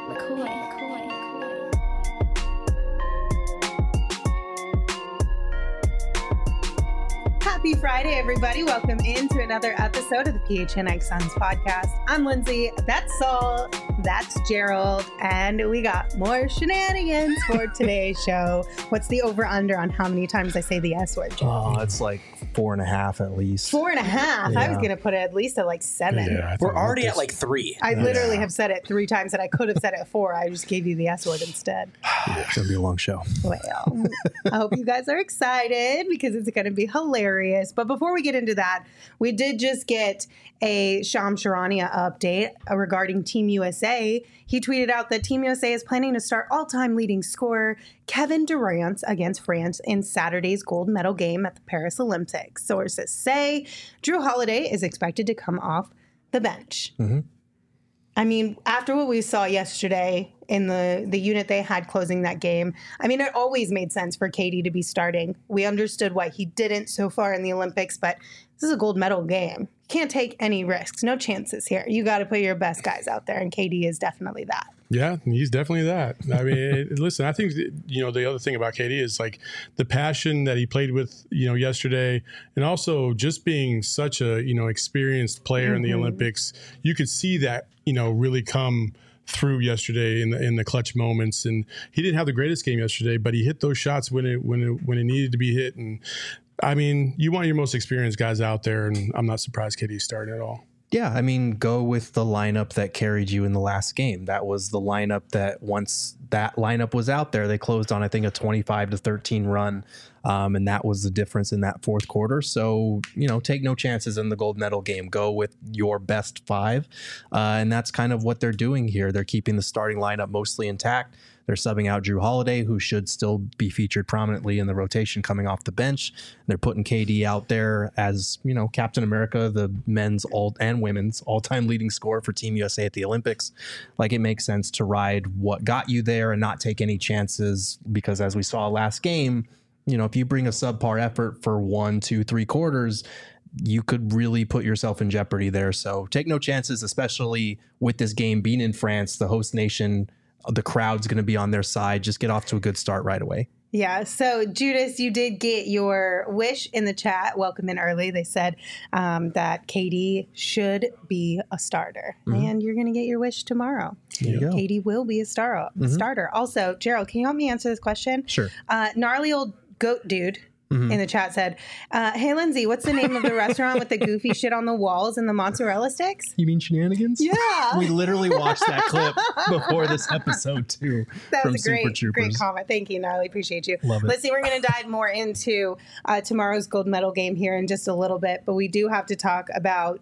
Happy Friday, everybody. Welcome into another episode of the PHNX Suns podcast. I'm Lindsay. That's Saul. That's Gerald. And we got more shenanigans for today's show. What's the over-under on how many times I say the S word, Gerald? Oh, it's like 4.5 at least. 4.5? Yeah. I was going to put it at least at like 7. Yeah, We're already at like 3. I literally have said it 3 times, and I could have said it 4. I just gave you the S word instead. It's going to be a long show. Well, I hope you guys are excited because it's going to be hilarious. But before we get into that, we did just get a Shams Charania update regarding Team USA. He tweeted out that Team USA is planning to start all-time leading scorer Kevin Durant against France in Saturday's gold medal game at the Paris Olympics. Sources say Drew Holiday is expected to come off the bench. Mm-hmm. I mean, after what we saw yesterday in the unit they had closing that game, I mean, it always made sense for KD to be starting. We understood why he didn't so far in the Olympics, but this is a gold medal game. You can't take any risks. No chances here. You got to put your best guys out there, and KD is definitely that. Yeah, he's definitely that. I mean, listen, I think, the other thing about KD is like the passion that he played with, yesterday, and also just being such a, experienced player in the Olympics. You could see that, really come through yesterday in the clutch moments. And he didn't have the greatest game yesterday, but he hit those shots when it needed to be hit. And I mean, you want your most experienced guys out there, and I'm not surprised KD started at all. Yeah, I mean, go with the lineup that carried you in the last game. That was the lineup that once that lineup was out there, they closed on, I think, a 25-13 run. And that was the difference in that fourth quarter. So, take no chances in the gold medal game. Go with your best 5. And that's kind of what they're doing here. They're keeping the starting lineup mostly intact. They're subbing out Drew Holiday, who should still be featured prominently in the rotation coming off the bench. They're putting KD out there as, Captain America, the men's and women's all-time leading scorer for Team USA at the Olympics. Like, it makes sense to ride what got you there and not take any chances because, as we saw last game, if you bring a subpar effort for 1, 2, 3 quarters, you could really put yourself in jeopardy there. So take no chances, especially with this game being in France, the host nation. The crowd's going to be on their side. Just get off to a good start right away. Yeah. So, Judas, you did get your wish in the chat. Welcome in early. They said that KD should be a starter. And you're going to get your wish tomorrow. There you go. KD will be a starter. Also, Gerald, can you help me answer this question? Sure. Gnarly old goat dude in the chat said, hey, Lindsay, what's the name of the restaurant with the goofy shit on the walls and the mozzarella sticks? You mean Shenanigans? Yeah. We literally watched that clip before this episode, too. That from was a great comment. Thank you, Gnarly. Appreciate you. Love it. Let's see. We're going to dive more into tomorrow's gold medal game here in just a little bit. But we do have to talk about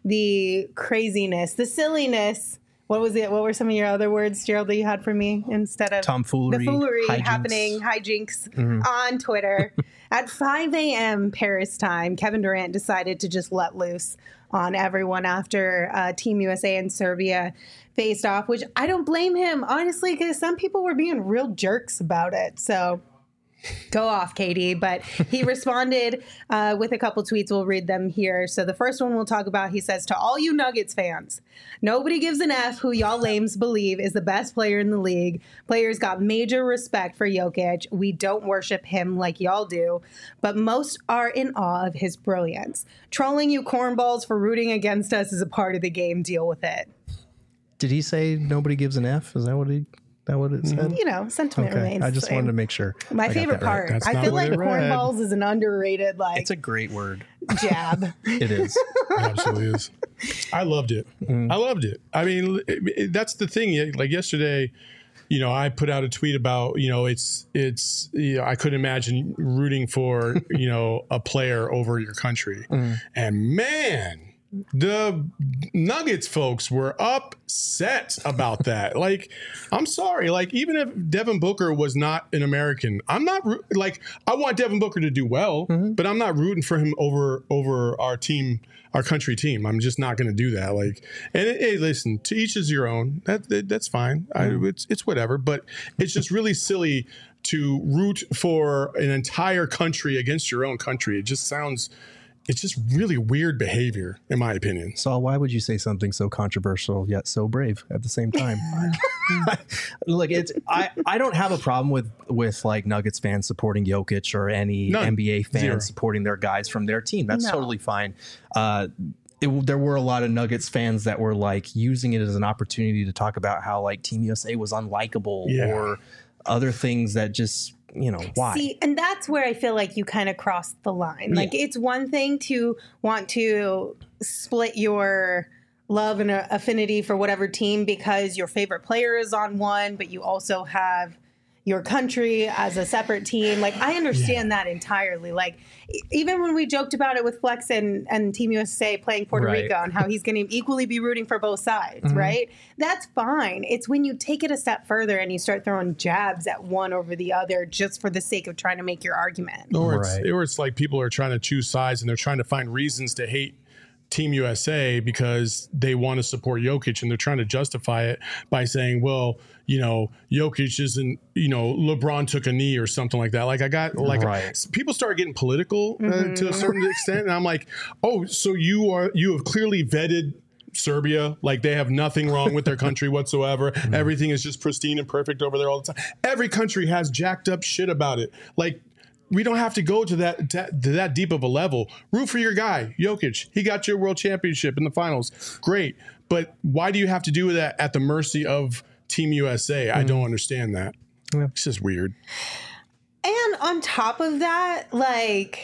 the craziness, the silliness. What was it? What were some of your other words, Gerald, that you had for me instead of tomfoolery, the foolery hijinks. happening, hijinks on Twitter? At 5 a.m. Paris time, Kevin Durant decided to just let loose on everyone after Team USA and Serbia faced off, which I don't blame him, honestly, because some people were being real jerks about it. So go off, KD. But he responded with a couple tweets. We'll read them here. So the first one we'll talk about, he says, to all you Nuggets fans, nobody gives an F who y'all lames believe is the best player in the league. Players got major respect for Jokic. We don't worship him like y'all do, but most are in awe of his brilliance. Trolling you cornballs for rooting against us is a part of the game. Deal with it. Did he say nobody gives an F? Is that what it said? Sentiment remains. I just wanted to make sure. My favorite part. That's I not feel what like it read. cornballs is an underrated, It's a great word. jab. It is. It absolutely is. I loved it. I loved it. I mean, that's the thing. Like yesterday, I put out a tweet about, it's I couldn't imagine rooting for, a player over your country. And man, the Nuggets folks were upset about that. Like, I'm sorry. Like, even if Devin Booker was not an American, I'm not I want Devin Booker to do well, but I'm not rooting for him over our team, our country team. I'm just not going to do that. Like, and hey, listen, to each is your own. That's fine. It's whatever. But it's just really silly to root for an entire country against your own country. It just sounds it's just really weird behavior, in my opinion. Saul, why would you say something so controversial yet so brave at the same time? Look, I don't have a problem with like Nuggets fans supporting Jokic or any NBA fans supporting their guys from their team. That's totally fine. There were a lot of Nuggets fans that were like using it as an opportunity to talk about how like Team USA was unlikable or other things that just, you know, why? See, and that's where I feel like you kind of crossed the line. Like, it's one thing to want to split your love and affinity for whatever team because your favorite player is on one, but you also have your country as a separate team. Like, I understand that entirely. Like, even when we joked about it with Flex and Team USA playing Puerto Rico and how he's going to equally be rooting for both sides, right? That's fine. It's when you take it a step further and you start throwing jabs at one over the other just for the sake of trying to make your argument. Or it's like people are trying to choose sides and they're trying to find reasons to hate Team USA because they want to support Jokic, and they're trying to justify it by saying, well, you know, Jokic isn't, you know, LeBron took a knee or something like that. Like, I got like people start getting political to a certain extent, and I'm like, oh, so you have clearly vetted Serbia, like they have nothing wrong with their country whatsoever. Everything is just pristine and perfect over there all the time. Every country has jacked up shit about it. Like, we don't have to go to that deep of a level. Root for your guy, Jokic. He got your world championship in the finals. Great. But why do you have to do that at the mercy of Team USA? I don't understand that. Yeah. It's just weird. And on top of that, like,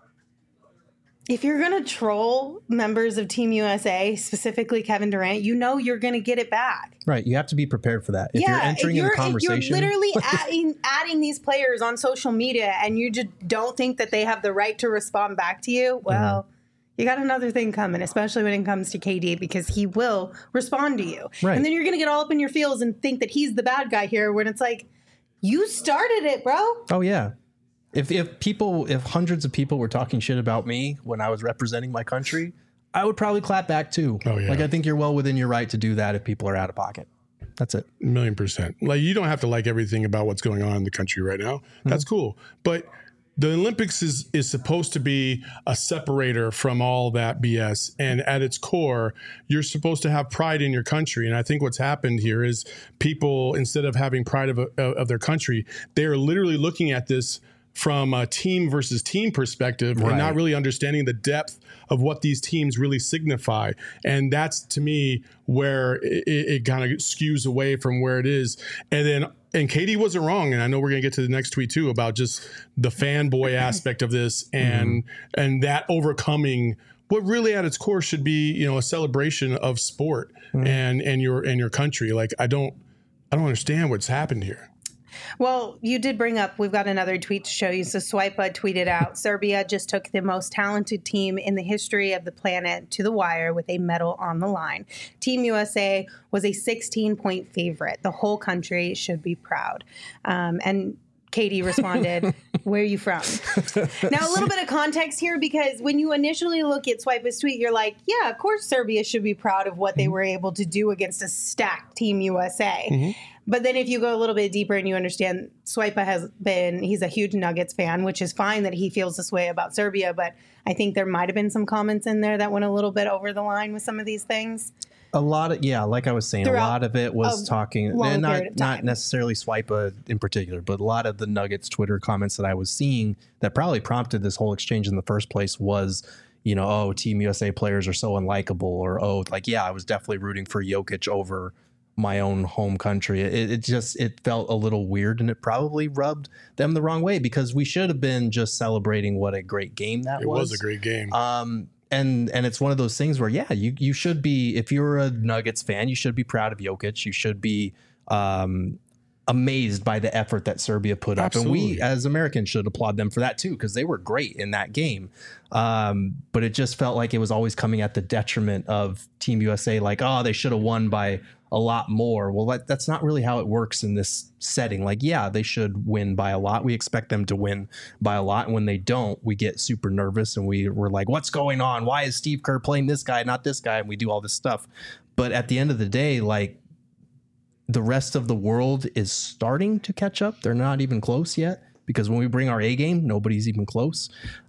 if you're going to troll members of Team USA, specifically Kevin Durant, you know you're going to get it back. Right. You have to be prepared for that. If you're entering in the conversation. You're literally adding these players on social media and you just don't think that they have the right to respond back to you, well, you got another thing coming, especially when it comes to KD, because he will respond to you. Right. And then you're going to get all up in your feels and think that he's the bad guy here when it's like, you started it, bro. Oh, yeah. If hundreds of people were talking shit about me when I was representing my country, I would probably clap back too. Oh, yeah. Like, I think you're well within your right to do that if people are out of pocket. That's it. 1,000,000%. Like, you don't have to like everything about what's going on in the country right now. That's cool. But the Olympics is supposed to be a separator from all that BS. And at its core, you're supposed to have pride in your country. And I think what's happened here is people, instead of having pride of their country, they are literally looking at this from a team versus team perspective and not really understanding the depth of what these teams really signify. And that's, to me, where it kind of skews away from where it is. And KD wasn't wrong. And I know we're going to get to the next tweet too about just the fanboy aspect of this and that overcoming what really at its core should be, you know, a celebration of sport and your country. Like, I don't understand what's happened here. Well, you did bring up, we've got another tweet to show you. So Swipa tweeted out, Serbia just took the most talented team in the history of the planet to the wire with a medal on the line. Team USA was a 16-point favorite. The whole country should be proud. And Katie responded, where are you from? Now, a little bit of context here, because when you initially look at Swipa's tweet, you're like, yeah, of course Serbia should be proud of what they were able to do against a stacked Team USA. But then if you go a little bit deeper and you understand Swipa he's a huge Nuggets fan, which is fine that he feels this way about Serbia. But I think there might have been some comments in there that went a little bit over the line with some of these things. A lot of, like I was saying, a lot of it was talking, and not necessarily Swipa in particular, but a lot of the Nuggets Twitter comments that I was seeing that probably prompted this whole exchange in the first place was, you know, oh, Team USA players are so unlikable, or, oh, like, yeah, I was definitely rooting for Jokic over my own home country. It felt a little weird, and it probably rubbed them the wrong way, because we should have been just celebrating what a great game that was. It was a great game. And it's one of those things where, you should be, if you're a Nuggets fan, you should be proud of Jokic. You should be amazed by the effort that Serbia put up. Absolutely. And we as Americans should applaud them for that too, because they were great in that game. But it just felt like it was always coming at the detriment of Team USA. Like, oh, they should have won by a lot more. Well, that's not really how it works in this setting. Like, yeah, they should win by a lot. We expect them to win by a lot. And when they don't, we get super nervous and we're like, what's going on? Why is Steve Kerr playing this guy, not this guy? And we do all this stuff. But at the end of the day, like, the rest of the world is starting to catch up. They're not even close yet, because when we bring our A game, nobody's even close.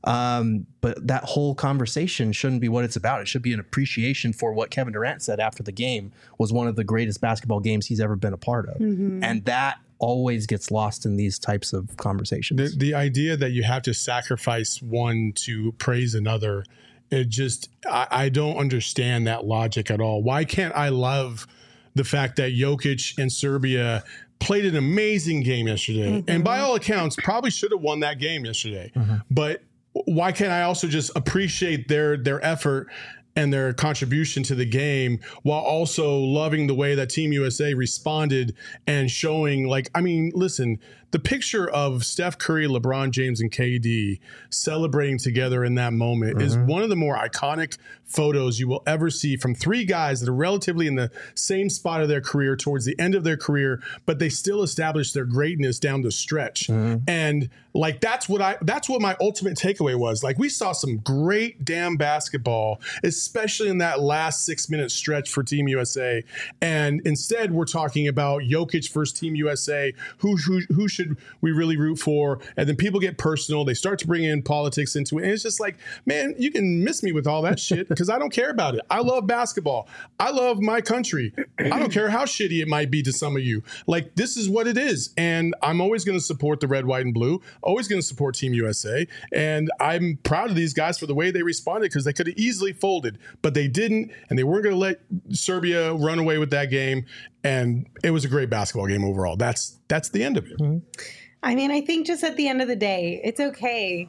But that whole conversation shouldn't be what it's about. It should be an appreciation for what Kevin Durant said after the game was one of the greatest basketball games he's ever been a part of. And that always gets lost in these types of conversations. The idea that you have to sacrifice one to praise another, it just, I don't understand that logic at all. Why can't I love the fact that Jokic and Serbia played an amazing game yesterday, and by all accounts probably should have won that game yesterday. But why can't I also just appreciate their effort and their contribution to the game while also loving the way that Team USA responded and showing, like, I mean, listen, the picture of Steph Curry, LeBron James, and KD celebrating together in that moment is one of the more iconic photos you will ever see from three guys that are relatively in the same spot of their career towards the end of their career, but they still established their greatness down the stretch. And like, that's what my ultimate takeaway was. Like, we saw some great damn basketball, especially in that last 6-minute stretch for Team USA. And instead we're talking about Jokic versus Team USA, who should we really root for? And then people get personal. They start to bring in politics into it. And it's just like, man, you can miss me with all that shit because I don't care about it. I love basketball. I love my country. I don't care how shitty it might be to some of you. Like, this is what it is. And I'm always going to support the red, white, and blue. Always going to support Team USA. And I'm proud of these guys for the way they responded, because they could have easily folded, but they didn't. And they weren't going to let Serbia run away with that game. And it was a great basketball game overall. That's the end of it. I mean, I think just at the end of the day, it's okay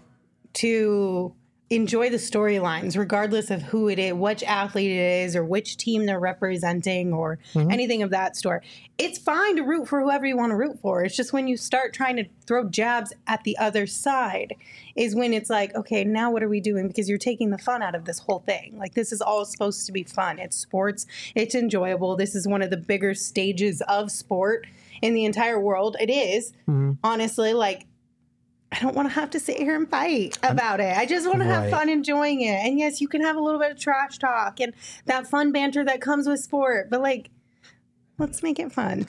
to enjoy the storylines, regardless of who it is, which athlete it is, or which team they're representing, or anything of that sort. It's fine to root for whoever you want to root for. It's just when you start trying to throw jabs at the other side is when it's like, okay, now what are we doing? Because you're taking the fun out of this whole thing. Like, this is all supposed to be fun. It's sports. It's enjoyable. This is one of the bigger stages of sport in the entire world. It is, honestly, like, I don't want to have to sit here and fight about it. I just want to have fun enjoying it. And yes, you can have a little bit of trash talk and that fun banter that comes with sport, but like, let's make it fun.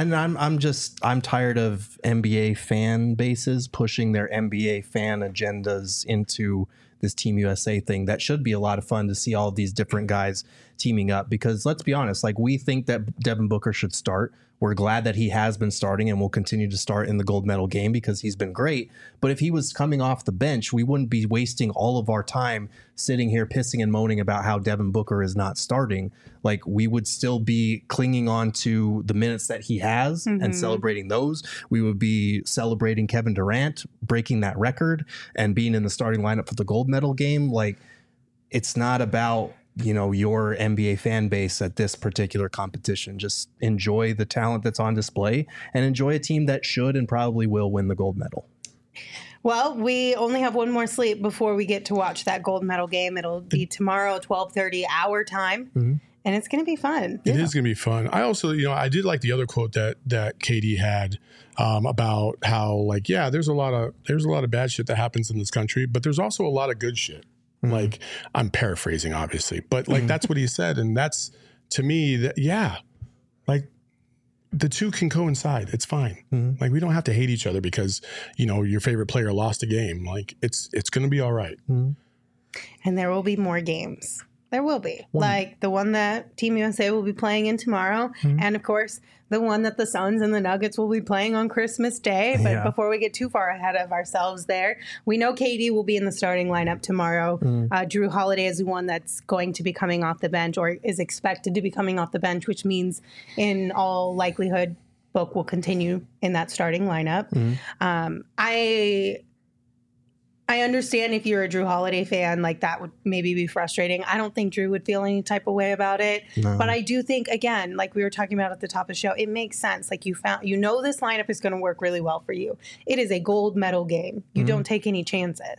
I'm tired of NBA fan bases pushing their NBA fan agendas into this Team USA thing. That should be a lot of fun to see all of these different guys teaming up, because let's be honest, like, we think that Devin Booker should start. We're glad that he has been starting and will continue to start in the gold medal game because he's been great. But if he was coming off the bench, we wouldn't be wasting all of our time sitting here pissing and moaning about how Devin Booker is not starting. Like, we would still be clinging on to the minutes that he has and celebrating those. We would be celebrating Kevin Durant breaking that record and being in the starting lineup for the gold medal game. Like, it's not about, you know, your NBA fan base at this particular competition. Just enjoy the talent that's on display and enjoy a team that should and probably will win the gold medal. Well, we only have one more sleep before we get to watch that gold medal game. It'll be tomorrow, 12:30 our time. And it's going to be fun. It is going to be fun. I also, you know, I did like the other quote that KD had about how, like, yeah, there's a lot of bad shit that happens in this country, but there's also a lot of good shit. Like, I'm paraphrasing, obviously, but like, that's what he said. And that's, to me, that, yeah, like, the two can coincide. It's fine. Like, we don't have to hate each other because, you know, your favorite player lost a game. Like, it's going to be all right. And there will be more games. There will be. Like the one that Team USA will be playing in tomorrow. And, of course, the one that the Suns and the Nuggets will be playing on Christmas Day. But before we get too far ahead of ourselves there, we know KD will be in the starting lineup tomorrow. Drew Holiday is the one that's going to be coming off the bench, or is expected to be coming off the bench, which means in all likelihood, Book will continue in that starting lineup. I understand if you're a Drew Holiday fan, like, that would maybe be frustrating. I don't think Drew would feel any type of way about it. But I do think, again, like we were talking about at the top of the show, it makes sense. Like, you know this lineup is going to work really well for you. It is a gold medal game. You don't take any chances.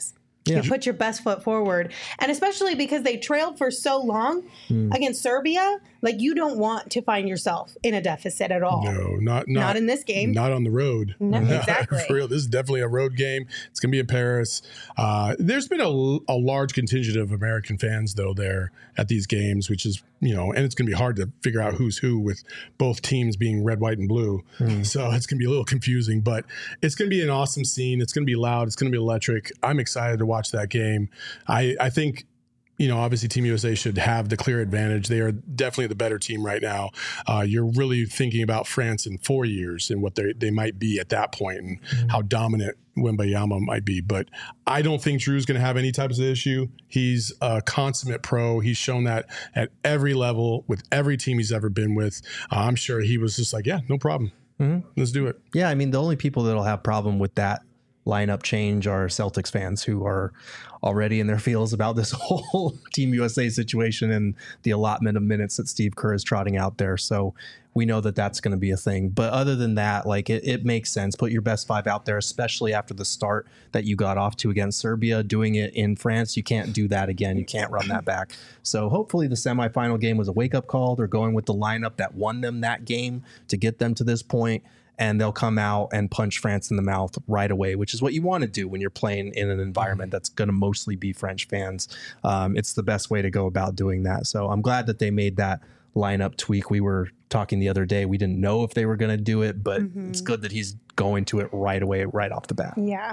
You put your best foot forward. And especially because they trailed for so long against Serbia, like you don't want to find yourself in a deficit at all. No, not in this game. Not on the road. No, exactly. For real, this is definitely a road game. It's going to be in Paris. There's been a large contingent of American fans, though, there at these games, which is, and it's going to be hard to figure out who's who with both teams being red, white, and blue. So it's going to be a little confusing, but it's going to be an awesome scene. It's going to be loud. It's going to be electric. I'm excited to watch that game. I think, obviously Team USA should have the clear advantage. They are definitely the better team right now. You're really thinking about France in 4 years and what they might be at that point and how dominant Wembanyama might be. But I don't think Drew's going to have any types of issue. He's a consummate pro. He's shown that at every level with every team he's ever been with. I'm sure he was just like, yeah, no problem. Let's do it. Yeah, I mean, the only people that'll have problem with that lineup change are Celtics fans who are already in their feels about this whole Team USA situation and the allotment of minutes that Steve Kerr is trotting out there. So we know that that's going to be a thing. But other than that, like it makes sense. Put your best five out there, especially after the start that you got off to against Serbia. Doing it in France, you can't do that again. You can't run that back. So hopefully the semifinal game was a wake-up call. They're going with the lineup that won them that game to get them to this point. And they'll come out and punch France in the mouth right away, which is what you want to do when you're playing in an environment that's going to mostly be French fans. It's the best way to go about doing that. So I'm glad that they made that lineup tweak. We were talking the other day. We didn't know if they were going to do it, but it's good that he's going to it right away, right off the bat. Yeah.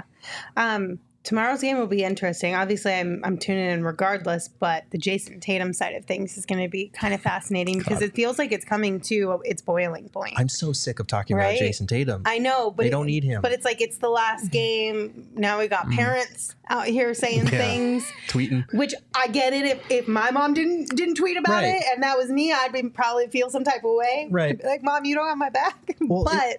Tomorrow's game will be interesting. Obviously, I'm tuning in regardless, but the Jason Tatum side of things is going to be kind of fascinating because it feels like it's coming to its boiling point. I'm so sick of talking about Jason Tatum. I know, but they don't need him. But it's like it's the last game. Now we got parents out here saying things, tweeting. Which I get it. If my mom didn't tweet about it, and that was me, I'd probably feel some type of way. Right, I'd be like, Mom, you don't have my back. Well, but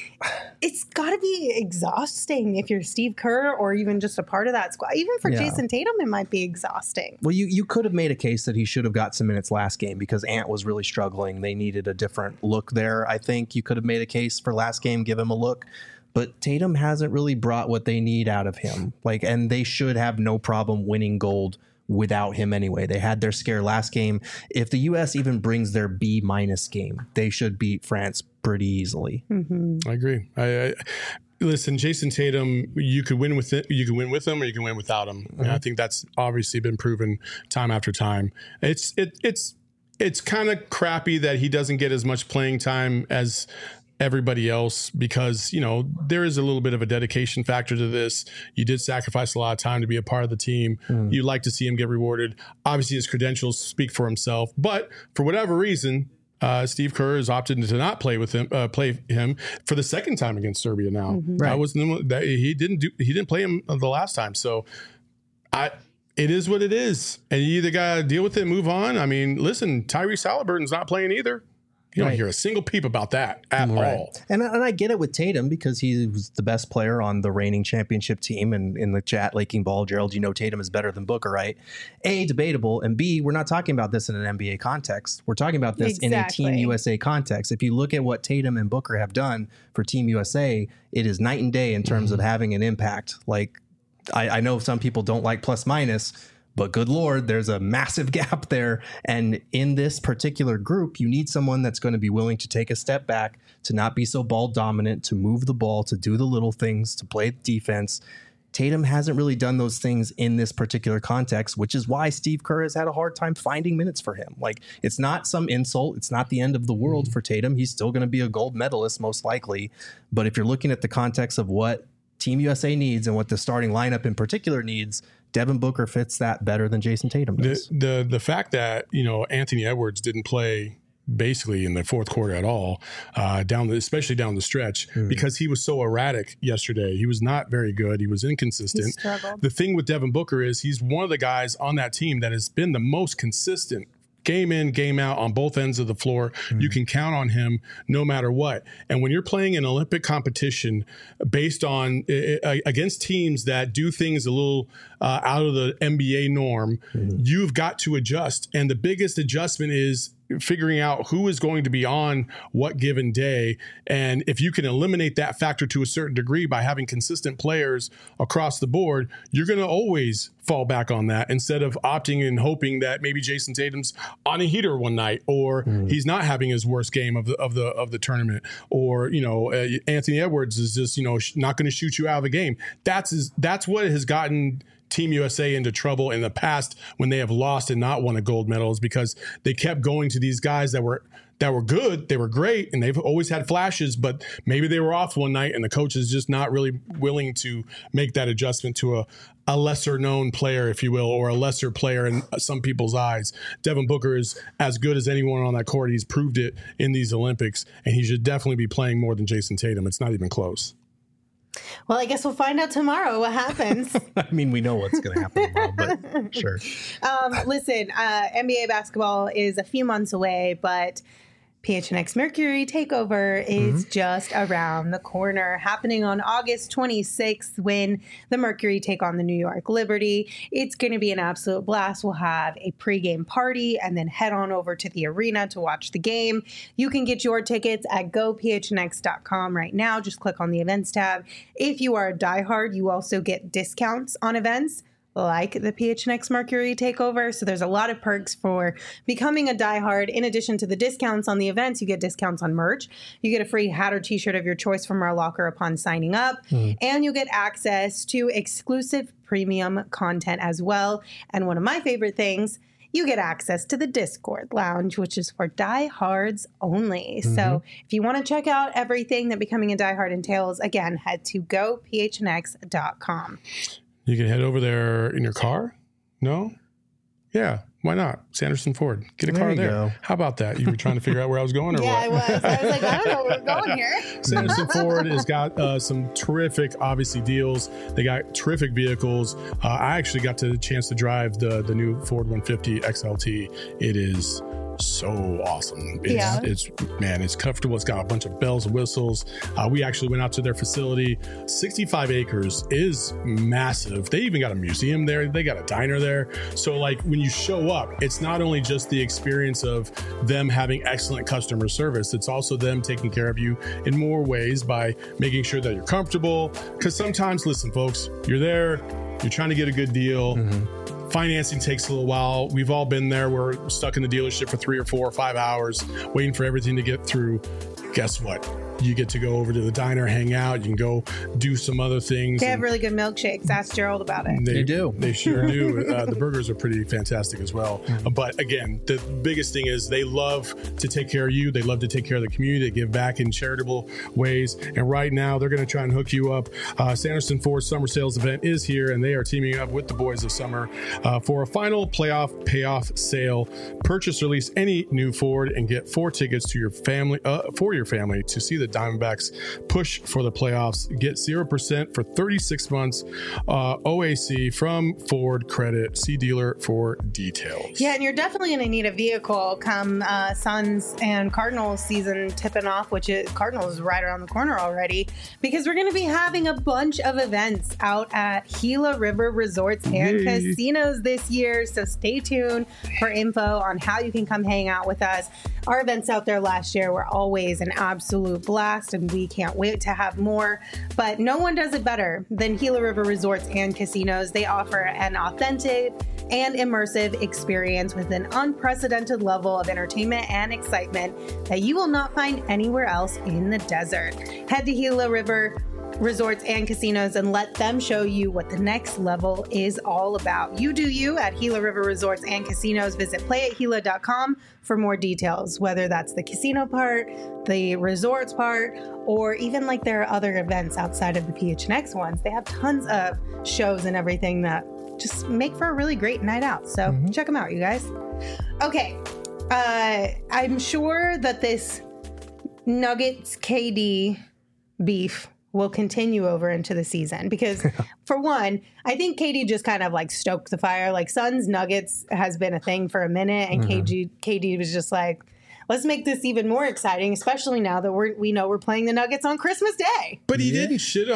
it's got to be exhausting if you're Steve Kerr or even just a part of that squad. Even for Jason Tatum, it might be exhausting. Well, you could have made a case that he should have got some minutes last game because Ant was really struggling. They needed a different look there. I think you could have made a case for last game, give him a look. But Tatum hasn't really brought what they need out of him. And they should have no problem winning gold without him anyway. They had their scare last game. If the U.S. even brings their B- game, they should beat France pretty easily. I agree. Listen, Jason Tatum, you could win with it. You can win with him, or you can win without him. And I think that's obviously been proven time after time. It's kind of crappy that he doesn't get as much playing time as everybody else because, there is a little bit of a dedication factor to this. You did sacrifice a lot of time to be a part of the team. You'd like to see him get rewarded. Obviously, his credentials speak for himself. But for whatever reason, Steve Kerr has opted to not play him for the second time against Serbia now. He didn't play him the last time. So it is what it is. And you either got to deal with it and move on. I mean, listen, Tyrese Halliburton's not playing either. You don't hear a single peep about that at all. And I get it with Tatum because he was the best player on the reigning championship team. And in the chat, Laking Ball, Gerald, Tatum is better than Booker, right? A, debatable. And B, we're not talking about this in an NBA context. We're talking about this in a Team USA context. If you look at what Tatum and Booker have done for Team USA, it is night and day in terms of having an impact. Like, I know some people don't like plus minus, but good Lord, there's a massive gap there. And in this particular group, you need someone that's going to be willing to take a step back, to not be so ball dominant, to move the ball, to do the little things, to play defense. Tatum hasn't really done those things in this particular context, which is why Steve Kerr has had a hard time finding minutes for him. Like, it's not some insult. It's not the end of the world for Tatum. He's still going to be a gold medalist, most likely. But if you're looking at the context of what Team USA needs and what the starting lineup in particular needs, Devin Booker fits that better than Jason Tatum does. The fact that, Anthony Edwards didn't play basically in the fourth quarter at all, especially down the stretch, because he was so erratic yesterday. He was not very good. He was inconsistent. He struggled. The thing with Devin Booker is he's one of the guys on that team that has been the most consistent game in, game out on both ends of the floor. You can count on him no matter what. And when you're playing an Olympic competition based on against teams that do things a little out of the NBA norm, you've got to adjust. And the biggest adjustment is figuring out who is going to be on what given day. And if you can eliminate that factor to a certain degree by having consistent players across the board, you're going to always fall back on that instead of opting and hoping that maybe Jason Tatum's on a heater one night, or he's not having his worst game of the tournament, or Anthony Edwards is just not going to shoot you out of the game. That's what has gotten Team USA into trouble in the past when they have lost and not won a gold medal, is because they kept going to these guys that were good, they were great, and they've always had flashes, but maybe they were off one night and the coach is just not really willing to make that adjustment to a lesser known player, if you will, or a lesser player in some people's eyes. Devin Booker is as good as anyone on that court. He's proved it in these Olympics, and he should definitely be playing more than Jason Tatum. It's not even close. Well, I guess we'll find out tomorrow what happens. I mean, we know what's going to happen tomorrow, but sure. Listen, NBA basketball is a few months away, but PHNX Mercury Takeover is just around the corner, happening on August 26th when the Mercury take on the New York Liberty. It's going to be an absolute blast. We'll have a pregame party and then head on over to the arena to watch the game. You can get your tickets at gophnx.com right now. Just click on the events tab. If you are a diehard, you also get discounts on events like the PHNX Mercury Takeover. So there's a lot of perks for becoming a diehard. In addition to the discounts on the events, you get discounts on merch. You get a free hat or t-shirt of your choice from our locker upon signing up. And you get access to exclusive premium content as well. And one of my favorite things, you get access to the Discord Lounge, which is for diehards only. So if you want to check out everything that becoming a diehard entails, again, head to gophnx.com. You can head over there in your car? No? Yeah, why not? Sanderson Ford. Get a car there. Go. How about that? You were trying to figure out where I was going, or Yeah, what? I was like, I don't know where we're going here. Sanderson Ford has got some terrific, obviously, deals. They got terrific vehicles. I actually got the chance to drive the new Ford 150 XLT. It is so awesome. It's comfortable. It's got a bunch of bells and whistles. We actually went out to their facility. 65 acres is massive. They even got a museum there. They got a diner there. So like when you show up, it's not only just the experience of them having excellent customer service, it's also them taking care of you in more ways by making sure that you're comfortable. Because sometimes, listen, folks, you're there, you're trying to get a good deal. Financing takes a little while. We've all been there. We're stuck in the dealership for 3 or 4 or 5 hours waiting for everything to get through. Guess what? You get to go over to the diner, hang out. You can go do some other things. They have really good milkshakes. Ask Gerald about it. They do. They sure do. The burgers are pretty fantastic as well. But again, the biggest thing is they love to take care of you. They love to take care of the community. They give back in charitable ways. And right now, they're going to try and hook you up. Sanderson Ford Summer Sales Event is here, and they are teaming up with the Boys of Summer for a final playoff payoff sale. Purchase or lease any new Ford and get 4 tickets to your family to see the Diamondbacks push for the playoffs. Get 0% for 36 months OAC from Ford Credit. See dealer for details. Yeah, and you're definitely going to need a vehicle come Suns and Cardinals season tipping off, which is Cardinals is right around the corner already, because we're going to be having a bunch of events out at Gila River Resorts and Casinos this year. So stay tuned for info on how you can come hang out with us. Our events out there last year were always an absolute blast, and we can't wait to have more. But no one does it better than Gila River Resorts and Casinos. They offer an authentic and immersive experience with an unprecedented level of entertainment and excitement that you will not find anywhere else in the desert. Head to Gila River Resorts and Casinos and let them show you what the next level is all about. You do you at Gila River Resorts and Casinos. Visit playathila.com for more details, whether that's the casino part, the resorts part, or even like there are other events outside of the PHNX ones. They have tons of shows and everything that just make for a really great night out. So check them out, you guys. Okay. I'm sure that this Nuggets KD beef will continue over into the season because for one, I think KD just kind of like stoked the fire. Like Suns Nuggets has been a thing for a minute, and KD was just like, let's make this even more exciting, especially now that we know we're playing the Nuggets on Christmas Day. But he didn't shit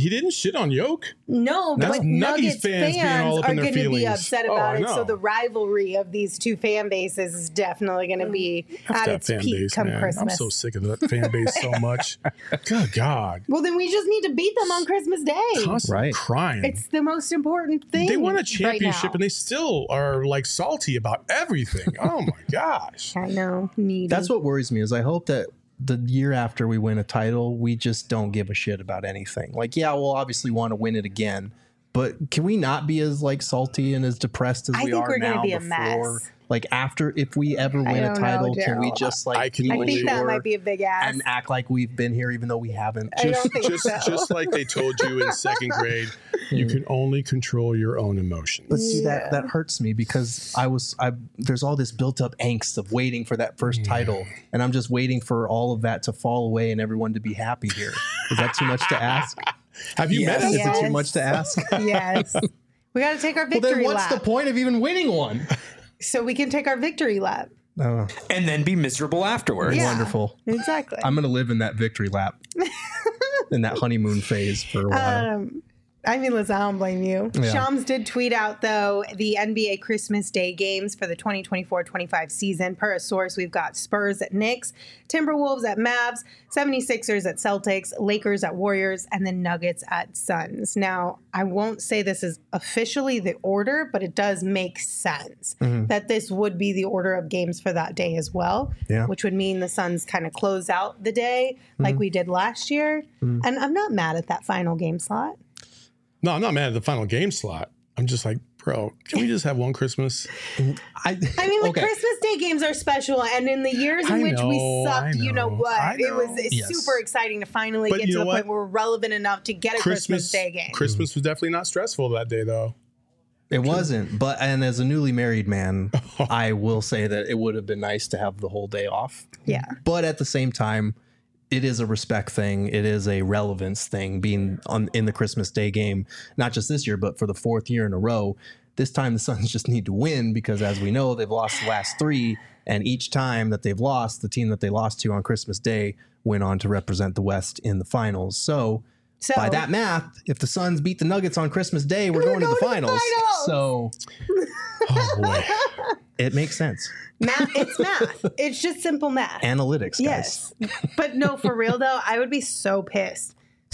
on Yoke. No, but Nuggets fans are going to be upset about it. So the rivalry of these two fan bases is definitely going to be at its peak come Christmas. I'm so sick of that fan base so much. Good God. Well, then we just need to beat them on Christmas Day. Constantly crying. It's the most important thing. They won a championship right and they still are like salty about everything. Oh my gosh. I know. Needy. That's what worries me is I hope that the year after we win a title, we just don't give a shit about anything. Like, yeah, we'll obviously want to win it again, but can we not be as like salty and as depressed as we are now? I think we're going to be a mess. Like after, if we ever win a title, can we just like I think that might be a big ass and act like we've been here even though we haven't? Just like they told you in second grade, you can only control your own emotions. But see, that hurts me because there's all this built up angst of waiting for that first title, and I'm just waiting for all of that to fall away and everyone to be happy here. Is that too much to ask? Have you met us? Is it too much to ask? Yes. We got to take our victory then what's lap. the point of even winning one? So we can take our victory lap. And then be miserable afterwards. Yeah, wonderful. Exactly. I'm going to live in that victory lap, in that honeymoon phase for a while. I mean, listen, I don't blame you. Yeah. Shams did tweet out, though, the NBA Christmas Day games for the 2024-25 season. Per a source, we've got Spurs at Knicks, Timberwolves at Mavs, 76ers at Celtics, Lakers at Warriors, and then Nuggets at Suns. Now, I won't say this is officially the order, but it does make sense that this would be the order of games for that day as well, which would mean the Suns kind of close out the day like we did last year. And I'm not mad at that final game slot. No, I'm not mad at the final game slot. I'm just like, bro, can we just have one Christmas? I mean, the Christmas Day games are special, and in the years in which we sucked, you know what? It was super exciting to finally get to the point where we're relevant enough to get a Christmas Day game. Christmas was definitely not stressful that day, though. It wasn't, and as a newly married man, I will say that it would have been nice to have the whole day off. Yeah. But at the same time, it is a respect thing. It is a relevance thing being in the Christmas Day game, not just this year, but for the fourth year in a row. This time the Suns just need to win because, as we know, they've lost the last three. And each time that they've lost, the team that they lost to on Christmas Day went on to represent the West in the finals. So by that math, if the Suns beat the Nuggets on Christmas Day, we're going to the finals. So oh boy. It makes sense. Math, it's math. It's just simple math. Analytics, guys. Yes. But no, for real though, I would be so pissed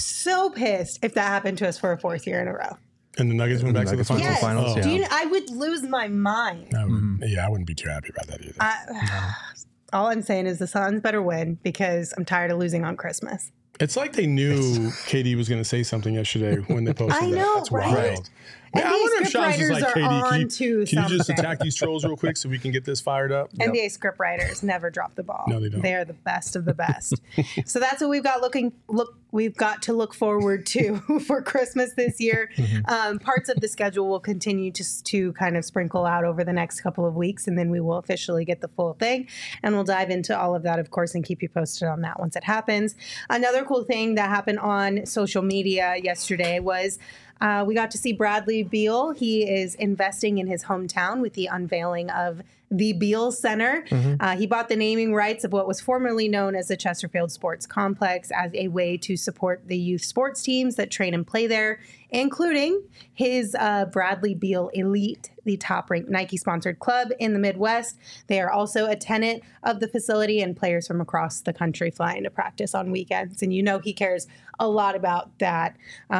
if that happened to us for a fourth year in a row. And the Nuggets went back to the finals? Yes. Finals, yeah. I would lose my mind. Yeah, I wouldn't be too happy about that either. All I'm saying is the Suns better win because I'm tired of losing on Christmas. It's like they knew KD was going to say something yesterday when they posted I that. know, That's right? wild. Man, I wonder if Shams is like, KD, can you just attack these trolls real quick so we can get this fired up? NBA script writers never drop the ball. No, they don't. They're the best of the best. So that's what we've got we've got to look forward to for Christmas this year. Parts of the schedule will continue to kind of sprinkle out over the next couple of weeks, and then we will officially get the full thing. And we'll dive into all of that, of course, and keep you posted on that once it happens. Another cool thing that happened on social media yesterday was we got to see Bradley Beal. He is investing in his hometown with the unveiling of the Beal Center. He bought the naming rights of what was formerly known as the Chesterfield Sports Complex as a way to support the youth sports teams that train and play there, including his Bradley Beal Elite, the top-ranked Nike-sponsored club in the Midwest. They are also a tenant of the facility, and players from across the country fly into practice on weekends. And you know he cares a lot about that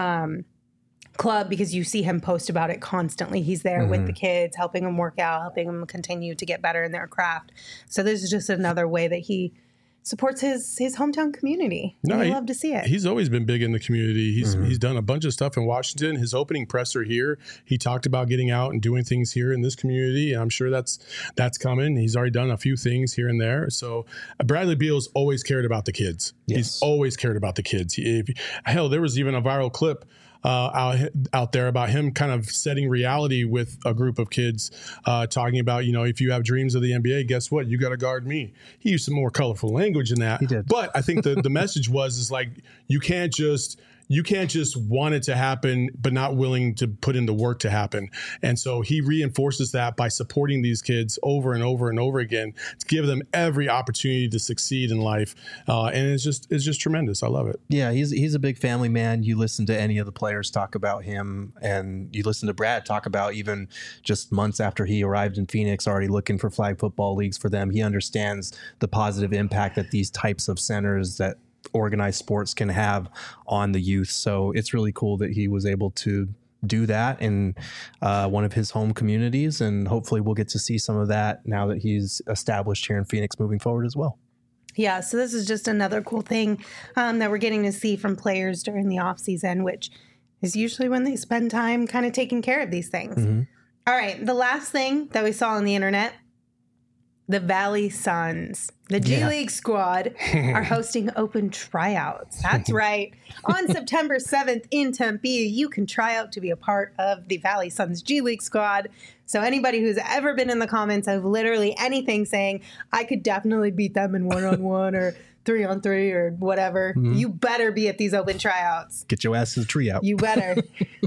club because you see him post about it constantly. He's there with the kids, helping them work out, helping them continue to get better in their craft. So this is just another way that he supports his hometown community. No, I love to see it. He's always been big in the community. He's done a bunch of stuff in Washington. His opening presser here, he talked about getting out and doing things here in this community. And I'm sure that's coming. He's already done a few things here and there. So Bradley Beal's always cared about the kids. Yes. He's always cared about the kids. Hell, there was even a viral clip out there about him kind of setting reality with a group of kids, talking about, if you have dreams of the NBA, guess what? You got to guard me. He used some more colorful language in that. He did. But I think the message is like, you can't just, you can't just want it to happen, but not willing to put in the work to happen. And so he reinforces that by supporting these kids over and over and over again to give them every opportunity to succeed in life. And it's just tremendous. I love it. Yeah, he's a big family man. You listen to any of the players talk about him, and you listen to Brad talk about even just months after he arrived in Phoenix, already looking for flag football leagues for them. He understands the positive impact that these types of centers that organized sports can have on the youth. So it's really cool that he was able to do that in one of his home communities, and hopefully we'll get to see some of that now that he's established here in Phoenix moving forward as well. Yeah, so this is just another cool thing that we're getting to see from players during the off season, which is usually when they spend time kind of taking care of these things. Mm-hmm. All right, the last thing that we saw on the internet, the Valley Suns, the G League squad, are hosting open tryouts. That's right. On September 7th in Tempe, you can try out to be a part of the Valley Suns G League squad. So anybody who's ever been in the comments of literally anything saying, I could definitely beat them in 1-on-1 or 3-on-3 or whatever, you better be at these open tryouts. Get your ass to the tree out. You better.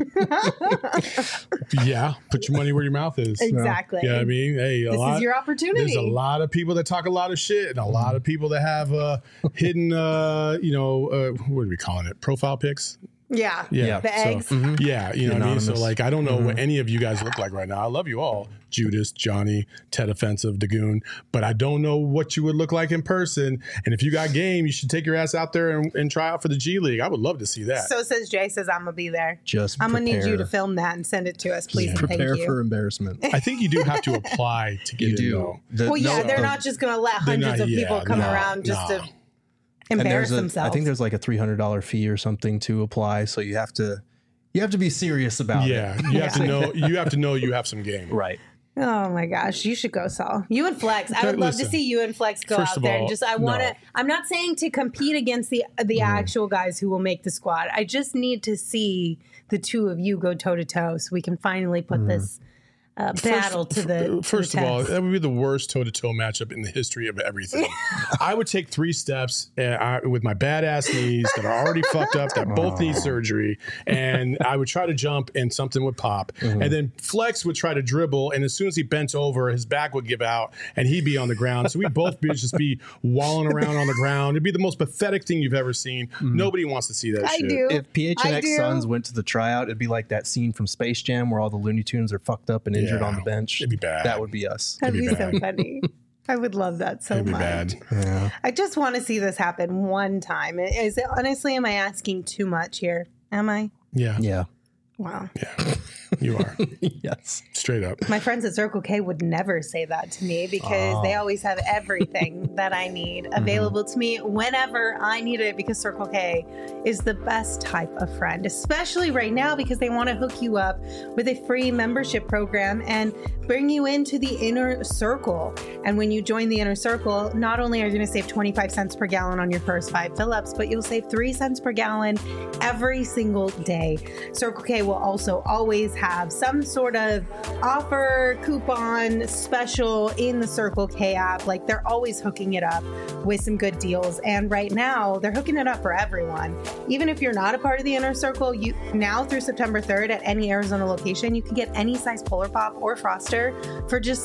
Yeah, put your money where your mouth is. Exactly. Yeah, I mean, hey, this is your opportunity. There's a lot of people that talk a lot of shit, and a lot of people that have hidden, what are we calling it? Profile pics. Yeah. The eggs. So, yeah, you know what I mean? So, like, I don't know what any of you guys look like right now. I love you all. Judas, Johnny, Ted Offensive, Dagoon. But I don't know what you would look like in person. And if you got game, you should take your ass out there and try out for the G League. I would love to see that. So says Jay, says I'm going to be there. I'm going to need you to film that and send it to us, please. Yeah. Prepare for embarrassment. I think you do have to apply to get in, though. They're not just going to let hundreds of people come around just to embarrass themselves. I think there's like a $300 fee or something to apply, so you have to be serious about it. Yeah, you have to know. You have to know you have some game. Right. Oh my gosh, you should go, Saul. You and Flex. I would love to see you and Flex go out there. And just, I'm not saying to compete against the actual guys who will make the squad. I just need to see the two of you go toe to toe so we can finally put this battle to the First of all, that would be the worst toe-to-toe matchup in the history of everything. I would take 3 steps with my badass knees that are already fucked up, that both need surgery, and I would try to jump and something would pop. And then Flex would try to dribble, and as soon as he bent over, his back would give out, and he'd be on the ground. So we'd both just be walling around on the ground. It'd be the most pathetic thing you've ever seen. Nobody wants to see that shit. Do. If PHNX Suns went to the tryout, it'd be like that scene from Space Jam where all the Looney Tunes are fucked up and injured on the bench. It'd be bad. That would be us. That'd be so funny. I would love that so much. Bad. Yeah. I just want to see this happen one time. Is it honestly? Am I asking too much here? Am I? Yeah. Wow. Yeah. You are. Yes. Straight up. My friends at Circle K would never say that to me because they always have everything that I need available to me whenever I need it, because Circle K is the best type of friend, especially right now because they want to hook you up with a free membership program and bring you into the inner circle. And when you join the inner circle, not only are you going to save 25 cents per gallon on your first 5 fill-ups, but you'll save 3 cents per gallon every single day. Circle K will also always have some sort of offer, coupon, special in the Circle K app. Like, they're always hooking it up with some good deals. And right now, they're hooking it up for everyone. Even if you're not a part of the inner circle, you now through September 3rd at any Arizona location, you can get any size Polar Pop or Froster for just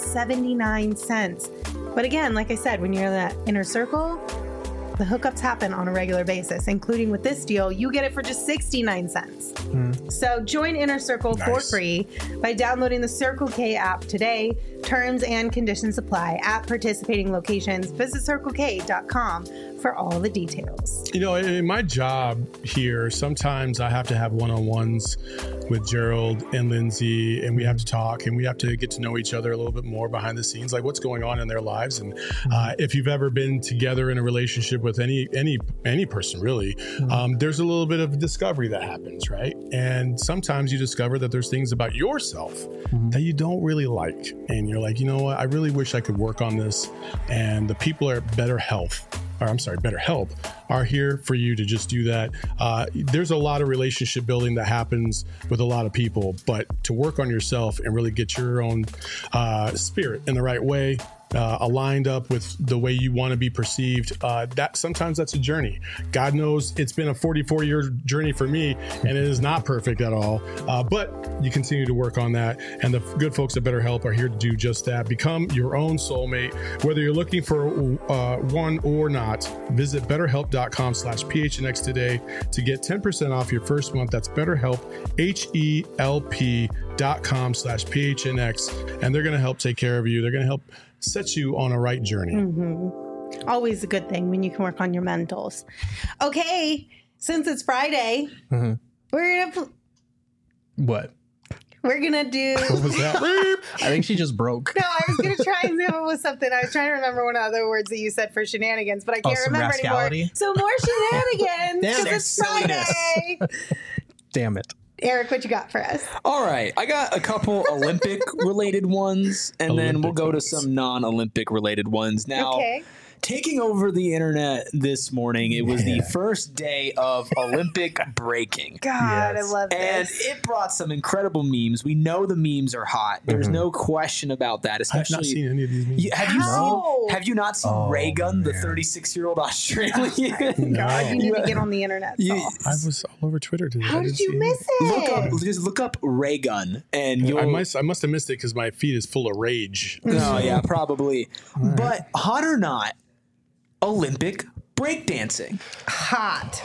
79 cents. But again, like I said, when you're in that inner circle, the hookups happen on a regular basis, including with this deal, you get it for just 69 cents. So join Inner Circle for free by downloading the Circle K app today. Terms and conditions apply at participating locations. Visit CircleK.com for all the details. You know, in my job here, sometimes I have to have one-on-ones with Gerald and Lindsay, and we have to talk and we have to get to know each other a little bit more behind the scenes, like what's going on in their lives. And if you've ever been together in a relationship with any person, really, there's a little bit of discovery that happens, right? And sometimes you discover that there's things about yourself that you don't really like. And you're like, you know what? I really wish I could work on this. And the people at BetterHelp are here for you to just do that. There's a lot of relationship building that happens with a lot of people, but to work on yourself and really get your own spirit in the right way, aligned up with the way you want to be perceived. That sometimes that's a journey. God knows it's been a 44-year journey for me, and it is not perfect at all. But you continue to work on that, and the good folks at BetterHelp are here to do just that. Become your own soulmate. Whether you're looking for one or not, visit BetterHelp.com/PHNX today to get 10% off your first month. That's BetterHelp, HELP.com/PHNX, and they're going to help take care of you. They're going to help set you on a right journey. Always a good thing when you can work on your mentals. Okay, since it's Friday, we're gonna What? we're gonna do. What was that? I think she just broke. No, I was gonna try and come up with something. I was trying to remember one of the other words that you said for shenanigans, but I can't some remember anymore. rascality? So more shenanigans Damn because it. it's Friday. Damn it. Eric, what you got for us? All right, I got a couple Olympic related ones, and then we'll go to some non-Olympic related ones. Now, Okay. taking over the internet this morning, it was the first day of Olympic breaking. God, Yes. I love And this. it brought some incredible memes. We know the memes are hot. There's no question about that. I've Especially, not seen any of these memes. How? Have you not seen Ray Gun, the 36-year-old Australian? God, you need to get on the internet. You- Saul. I was all over Twitter today. How I did didn't you see miss it? just look up Ray Gun, and you'll. I must have missed it because my feed is full of rage. No, yeah, probably. But hot or not, Olympic breakdancing. Hot.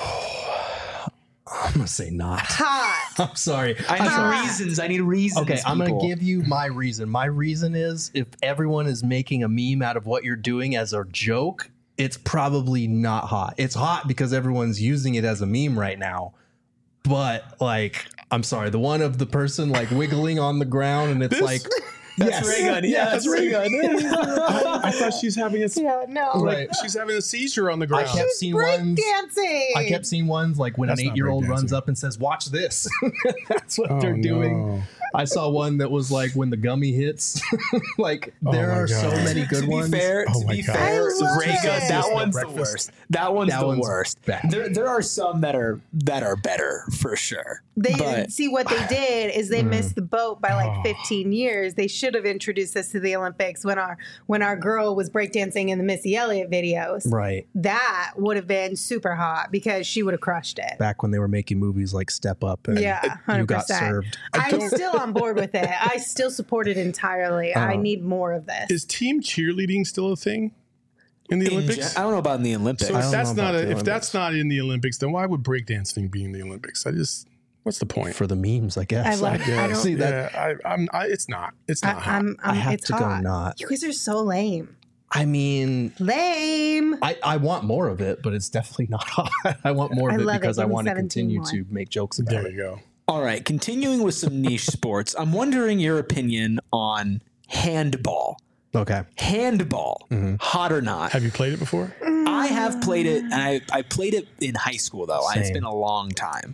I'm going to say not. Hot. I'm sorry. I need reasons. Okay, I'm going people. to give you my reason. My reason is if everyone is making a meme out of what you're doing as a joke, it's probably not hot. It's hot because everyone's using it as a meme right now. But like, I'm sorry, the one of the person like wiggling on the ground and it's This? like, That's Ray Gun. Yeah, that's Ray Gun. I thought she's having a Yeah, no. Right. she's having a seizure on the I ground. kept seeing Break ones. dancing. I kept seeing ones like when That's an not 8-year-old breakdancing. runs up and says, "Watch this." That's what Oh, they're doing. no. I saw one that was like when the gummy hits. Like there my are so God. many good To be ones. fair, Oh my God. I love Ray Gun, it. that one's the Breakfast. worst. That one's That the one's worst. bad. There are some that are better for sure. They But- see what they did is they missed the boat by Oh. like 15 years. They should have introduced us to the Olympics when our girl was breakdancing in the Missy Elliott videos. Right. That would have been super hot because she would have crushed it. Back when they were making movies like Step Up and Yeah, 100%. you got served. I'm still on board with it. I still support it entirely. I need more of this. Is team cheerleading still a thing in the Olympics? I don't know about in the Olympics. So I if don't that's know not about the if that's not in the Olympics, then why would breakdancing be in the Olympics? What's the point? For the memes, I guess. I love it. I don't- See that. Yeah, it's not. It's not hot. I have it's to go hot. not. You guys are so lame. I mean, Lame. I want more of it, but it's definitely not hot. I want more I of it love it. because I Give me want to 17 continue more. to make jokes about There it. you go. All right, continuing with some niche sports, I'm wondering your opinion on handball. Okay. Handball, hot or not? Have you played it before? I have played it, and I played it in high school, though. It's Same. been a long time.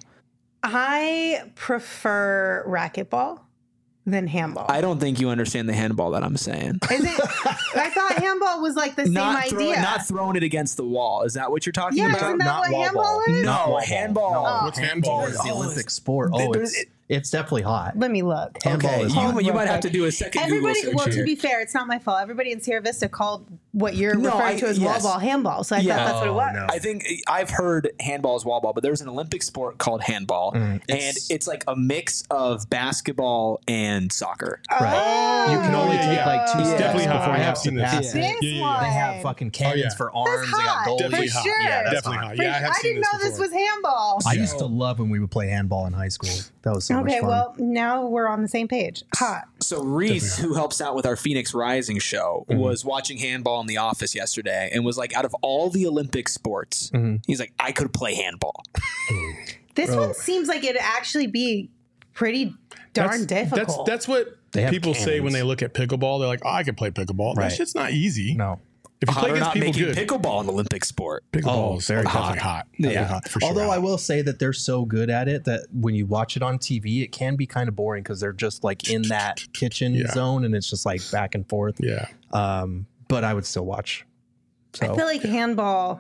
I prefer racquetball than handball. I don't think you understand the handball that I'm saying. Is it? I thought handball was like the same idea. Not throwing it against the wall. Is that what you're talking Yeah, about? isn't that Not what wall handball ball. is? No, Not wall handball. ball. Oh. What's handball? It's the Oh, Olympic sport. It's definitely hot. Let me look. Handball Okay, is you, hot. you might have to do a second Everybody, Google well, search to here. be fair, it's not my fault. Everybody in Sierra Vista called what you're No, referring to as yes. wall ball handball. So I Yeah. thought that's what it Oh, was. no. I think I've heard handball is wall ball, but there's an Olympic sport called handball, and it's like a mix of basketball and soccer. Right. You can only yeah, take yeah. like 2 It's steps definitely hot. before I you have have to seen this. pass This it. Yeah, yeah, one. They have fucking cannons yeah. for That's arms. They got hot. goalies. Definitely For hot. sure. Yeah, that's Definitely hot. hot. Yeah, I have I seen didn't know this before. was handball. I used to love when we would play handball in high school. That was so much Okay, fun. well, now we're on the same page. Hot. So Reese, who helps out with our Phoenix Rising show, was watching handball in the office yesterday and was like, out of all the Olympic sports, he's like, I could play handball. This one seems like it'd actually be pretty darn difficult. That's what They have people say when cannons. they look at pickleball. They're like, "Oh, I can play pickleball." That Right. shit's not easy. no. If you Hot play or against not people making good, pickleball an Olympic sport. pickleball is very definitely hot. Definitely hot, for sure. Although I hot. will say that they're so good at it that when you watch it on TV, it can be kind of boring because they're just like in that kitchen Yeah. zone and it's just like back and forth. Yeah. But I would still watch. So I feel like handball,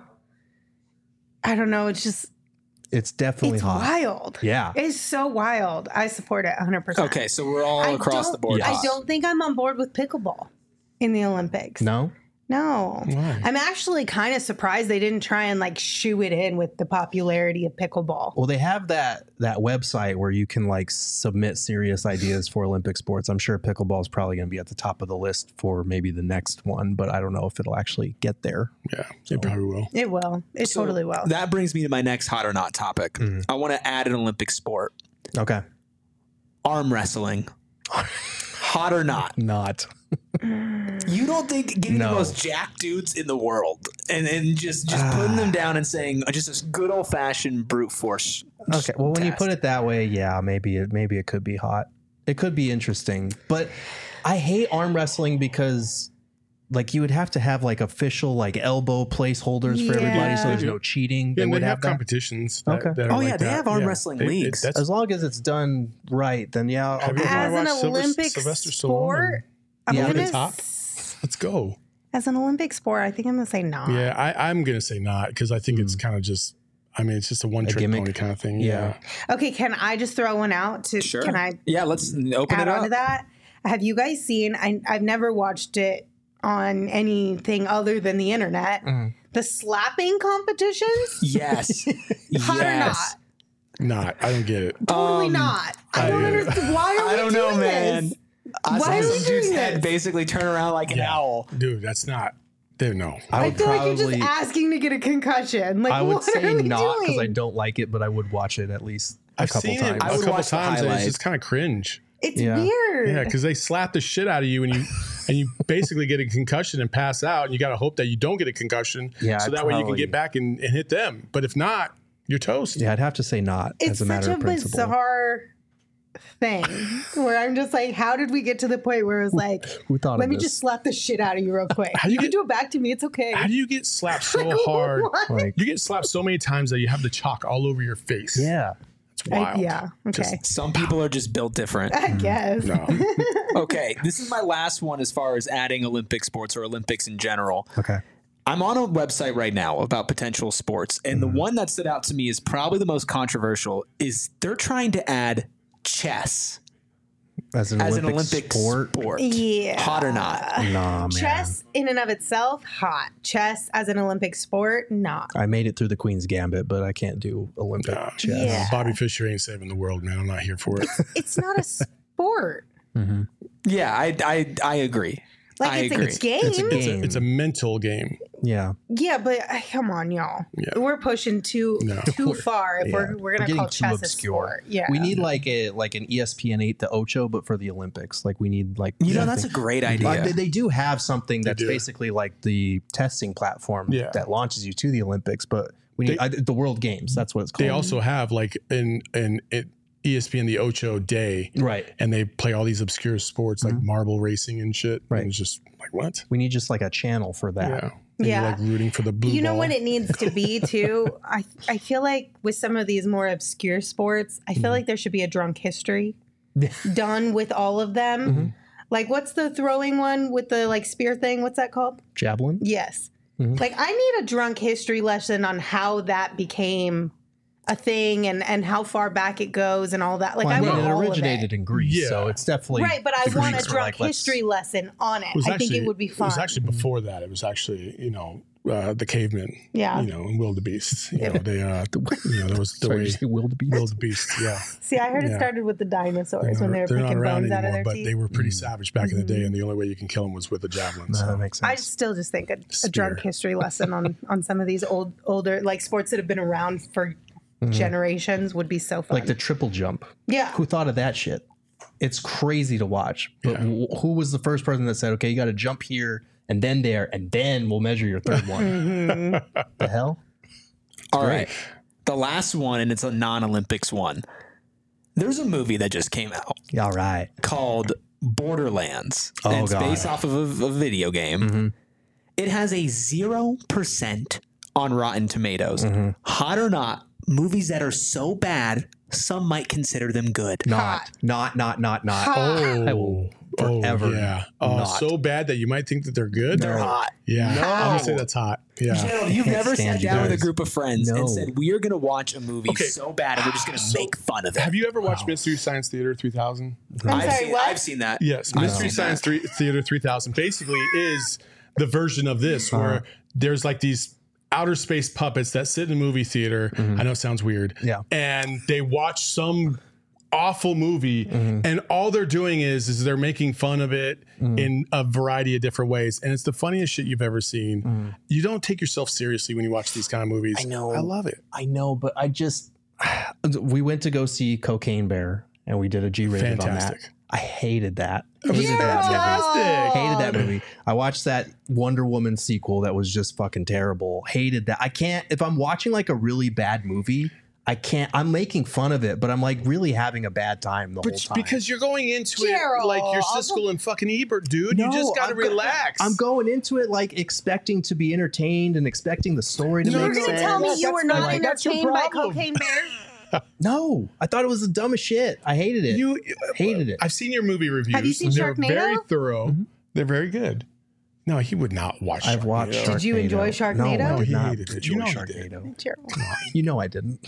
I don't know, it's definitely hot. wild. Yeah. It's so wild. I support it 100%. Okay, so we're all across the board. I hot. don't think I'm on board with pickleball. in the Olympics. No? No. Why? I'm actually kind of surprised they didn't try and like shoe it in with the popularity of pickleball. Well, they have that website where you can like submit serious ideas for Olympic sports. I'm sure pickleball is probably going to be at the top of the list for maybe the next one, but I don't know if it'll actually get there. Yeah, it probably will. It will. It So totally will. That brings me to my next hot or not topic. I want to add an Olympic sport. Okay. Arm wrestling. Hot or not? Not. You don't think getting No. the most jack dudes in the world and just putting them down and saying just this good old fashioned brute force. Okay. Well, when you test. put it that way, yeah, maybe it could be hot. It could be interesting, but I hate arm wrestling because like you would have to have like official like elbow placeholders for everybody, so Yeah. there's no cheating. Yeah, They and would they have have that. competitions. That, Okay. that are Oh, like yeah, they that. have arm wrestling leagues. that's- As long as it's done right, then yeah. I'll Have you go ever As an watched Olympic Sylvester Stallone sport, I'm Yeah. gonna Over the top? Let's go. as an Olympic sport, I think I'm gonna say no. Yeah, I'm gonna say not because I think it's kind of just. I mean, it's just a one trick gimmick. pony kind of thing. Yeah. Okay, can I just throw one out? Sure. Can I Yeah, let's open add it on up. to that? Have you guys seen? I've never watched it on anything other than the internet. The slapping competitions? Yes. Hot or not? Yes. Not. I don't get it. Totally not. I don't understand. Why are we I don't know, doing man. this? I Why saw are we some dude's doing head this? basically turn around like an owl. Dude, that's not. There, no. I I would feel like you're probably. just asking to get a concussion. Like, I would what say are we not because I doing? don't like it, but I would watch it at least a I've couple seen times. it I a would couple watch the times, and it's highlights. just kind of cringe. It's Yeah. weird. Yeah, because they slap the shit out of you, and you basically get a concussion and pass out, and you got to hope that you don't get a concussion, Yeah, so I'd that way you can probably- get back and hit them. But if not, you're toast. Yeah, I'd have to say not It's as a such matter a of principle. bizarre thing where I'm just like, how did we get to the point where it was like, Who thought let of me this? just slap the shit out of you real quick. How do You you can get- do it back to me. It's okay. How do you get slapped so Like, hard? what? Like, You get slapped so many times that you have the chalk all over your face. yeah. It's wild. Yeah. Okay. Some people are just built different. I guess. No. Okay, this is my last one as far as adding Olympic sports or Olympics in general. Okay. I'm on a website right now about potential sports, and the one that stood out to me is probably the most controversial. Is they're trying to add chess As an as Olympic an Olympic sport. Yeah. Hot or not? Nah, man. Chess in and of itself, hot. Chess as an Olympic sport, not. I made it through the Queen's Gambit, but I can't do Olympic chess. Yeah. Bobby Fischer ain't saving the world, man. I'm not here for it. It's not a sport. Yeah, I agree. Like I it's agree. a game. It's a game. It's a mental game. Yeah. Yeah, but come on, y'all. Yeah. We're pushing too far if Yeah. we're gonna getting call too chess a obscure. sport. Yeah. We need like an ESPN 8 to Ocho, but for the Olympics. Like we need like You know, something- that's a great idea. They do have something that's do. basically like the testing platform Yeah. that launches you to the Olympics, but we need the World Games. That's what it's called. They also have like in ESPN the Ocho Day, right. and they play all these obscure sports like marble racing and shit. Right. And it's just like what? We need just like a channel for that. Yeah. And Yeah. You're like rooting for the blue You know ball. what it needs to be too? I feel like with some of these more obscure sports, I feel like there should be a drunk history done with all of them. Like what's the throwing one with the like spear thing? What's that called? Javelin. Yes. Like I need a drunk history lesson on how that became a thing and how far back it goes and all that. Like Well, I mean, want it all originated of it. in Greece, Yeah. so it's definitely Right, but I the want a Greeks were drunk like, let's- history lesson on it. It was I think actually- it would be fun. It was actually before that. It was actually, the cavemen. Yeah. And wildebeest. They there was the Sorry, way did you say wildebeest? wildebeest. Yeah. See, I heard it Yeah. started with the dinosaurs when they were They're not picking around bones out of anymore, their but teeth. they were pretty savage back in the day, and the only way you can kill them was with a javelin. No, So. that makes sense. I still just think a drunk Spear. history lesson on some of these older like sports that have been around for generations would be so fun. like the triple jump. yeah, Who thought of that shit? It's crazy to watch. But who was the first person that said, "Okay, you got to jump here and then there, and then we'll measure your third one"? The hell? All right. The last one, and it's a non-Olympics one. There's a movie that just came out Yeah, all right. called Borderlands. Oh, and it's God. based off of a video game. It has a 0% on Rotten Tomatoes. Hot or not, movies that are so bad, some might consider them good. Not. Oh, I will forever. Yeah. not. So bad that you might think that they're good. They're hot. Yeah. No. I'm gonna say that's hot. Yeah. Gerald, you've can't never stand sat you down with a guys. group of friends No. and said, we are going to watch a movie Okay. so bad and we're just going to make fun of it. Have you ever watched Mystery Science Theater 3000? I've seen that. Yes, I've Mystery seen Science that. Theater 3000 basically is the version of this where there's like these outer space puppets that sit in a movie theater. I know it sounds weird. Yeah. And they watch some awful movie and all they're doing is they're making fun of it in a variety of different ways. And it's the funniest shit you've ever seen. You don't take yourself seriously when you watch these kind of movies. I know. I love it. I know, but we went to go see Cocaine Bear and we did a G-rated on that. Fantastic. I hated that. was Hated that movie. fantastic. Hated that movie. I watched that Wonder Woman sequel that was just fucking terrible. Hated that. I can't, if I'm watching like a really bad movie, I can't, I'm making fun of it, but I'm like really having a bad time the whole time. Because you're going into Gerald. it like you're Siskel and fucking Ebert, dude. You No, just got to I'm go- relax. I'm going into it like expecting to be entertained and expecting the story to You're make You're sense. gonna tell me you That's were not like- that's your entertained by problem. Cocaine Bear? No, I thought it was the dumbest shit. I hated it. Hated it. I've seen your movie reviews. Have you seen They're Sharknado? very thorough. They're very good. No, he would not watch. I've watched Sharknado. Sharknado. Did you enjoy Sharknado? No, I No, did he not hated it. enjoy You know he did. Sharknado. Gerald. You know I didn't.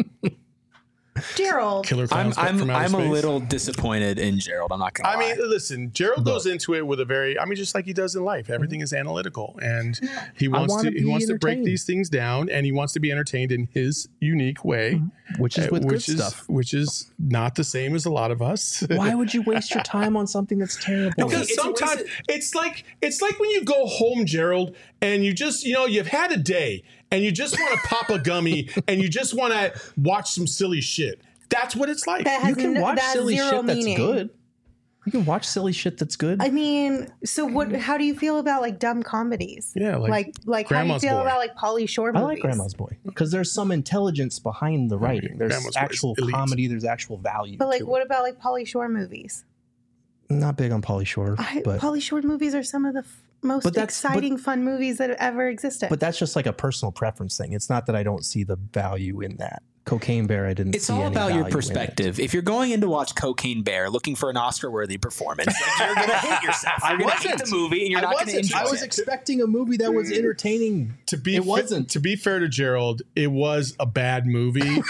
Gerald. Killer Clowns from Outer I'm a Space. little disappointed in Gerald. I'm not going to I lie. mean, listen, Gerald goes into it with a very, just like he does in life. Everything is analytical, and he wants wanna to be break entertained. these things down, and he wants to be entertained in his unique way, Which is with good stuff. which is not the same as a lot of us. Why would you waste your time on something that's terrible? Because It's a sometimes waste it's like when you go home, Gerald, and you just you've had a day and you just want to pop a gummy and you just want to watch some silly shit. That's what it's like. That has you can no- watch that has silly zero shit that's meaning. good. You can watch silly shit that's good. I mean, so what? How do you feel about like dumb comedies? Yeah, like how do you Grandma's feel Boy. about like Pauly Shore I movies? like Grandma's Boy because there's some intelligence behind the writing. There's Grandma's Boy is actual elite. comedy. There's actual value. But like, to what about like Pauly Shore movies? it. I'm not big on Pauly Shore, but Pauly Shore movies are some of the most But that's- exciting, fun movies that have ever existed. but that's just like a personal preference thing. It's not that I don't see the value in that. Cocaine Bear, I didn't. It's see all any about your value in it. perspective. If you're going in to watch Cocaine Bear looking for an Oscar-worthy performance, like, you're going to hate yourself. You're going to hate the movie, and you're not going to enjoy I was it. expecting a movie that was entertaining. It wasn't. To be fair to Gerald, it was a bad movie,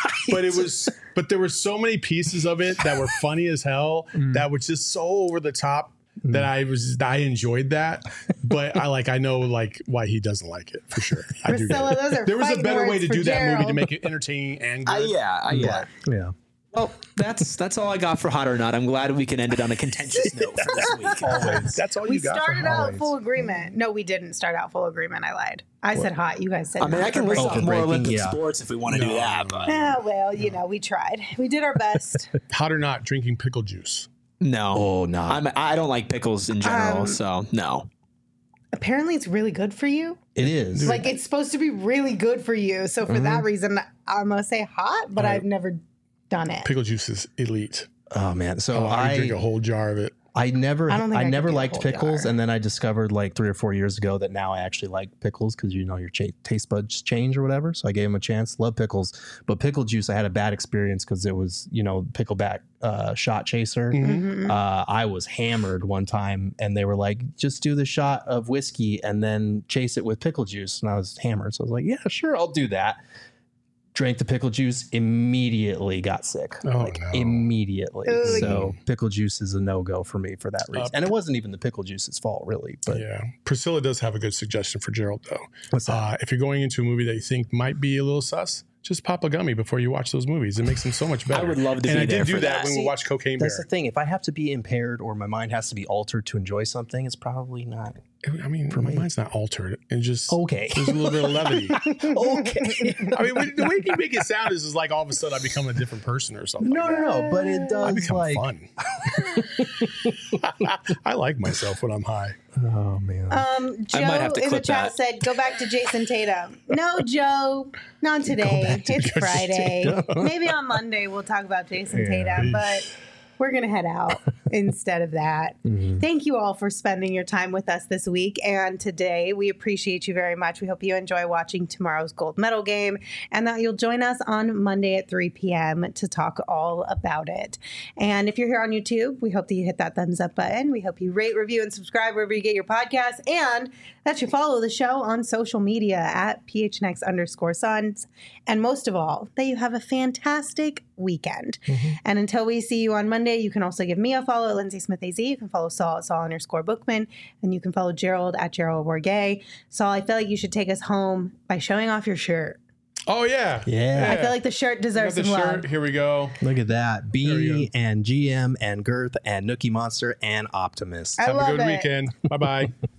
but there were so many pieces of it that were funny as hell that was just so over the top that I enjoyed that. But I know why he doesn't like it for sure. I do get Priscilla, it. those are There was a fighting better way words to for do that movie to Gerald. make it entertaining and good. Yeah. Yeah. Well, that's all I got for Hot or Not. I'm glad we can end it on a contentious note for this week. Always. That's all we you got. started from out always. full agreement. No, we didn't start out full agreement. I lied. I said hot. You guys said. I mean, I not can for list breaking. off more breaking, Olympic yeah. sports if we want to do that. But Well, we tried. We did our best. Hot or not, drinking pickle juice. no. Oh, no. I don't like pickles in general, so no. Apparently, it's really good for you. It is. Like it's supposed to be really good for you. So for that reason, I'm gonna say hot, but I've never done it. Pickle juice is elite. Oh man. So I drink a whole jar of it. I never I don't think I could never do a liked whole pickles, jar. and then I discovered like 3 or 4 years ago that now I actually like pickles because your taste buds change or whatever. So I gave them a chance. Love pickles, but pickle juice I had a bad experience because it was pickleback shot chaser. I was hammered one time, and they were like, "Just do the shot of whiskey and then chase it with pickle juice," and I was hammered, so I was like, "Yeah, sure, I'll do that." Drank the pickle juice, immediately got sick. Oh, no. Immediately. Ugh. So pickle juice is a no-go for me for that reason. And it wasn't even the pickle juice's fault, really. But Yeah. Priscilla does have a good suggestion for Gerald, though. What's that? If you're going into a movie that you think might be a little sus, just pop a gummy before you watch those movies. It makes them so much better. I would love to and be I there did do for that that. when we watched Cocaine Bear. that's the thing. If I have to be impaired or my mind has to be altered to enjoy something, it's probably not. I mean, my mind's not altered. It just Okay. there's a little bit of levity. Okay. I mean, the way you make it sound is like all of a sudden I become a different person or something. No, but it I does become like. fun. I like myself when I'm high. Oh man. Joe might have to in the clip chat that. said, "Go back to Jason Tatum." No, Joe, not today. It's Friday. Maybe on Monday we'll talk about Jason Tatum, but we're gonna head out. instead of that. Thank you all for spending your time with us this week and today. We appreciate you very much. We hope you enjoy watching tomorrow's gold medal game and that you'll join us on Monday at 3 p.m. to talk all about it. And if you're here on YouTube, we hope that you hit that thumbs up button. We hope you rate, review, and subscribe wherever you get your podcasts, and that you follow the show on social media at PHNX_Suns. And most of all, that you have a fantastic weekend. And until we see you on Monday, you can also give me a follow at Lindsay Smith AZ. You can follow Saul at Saul_Bookman, and you can follow Gerald at Gerald Wargay. Saul, I feel like you should take us home by showing off your shirt. Oh, yeah. Yeah. I feel like the shirt deserves some love. Here we go. Look at that. There B you and GM and Girth and Nookie Monster and Optimus. I Have love a good it. weekend. Bye-bye.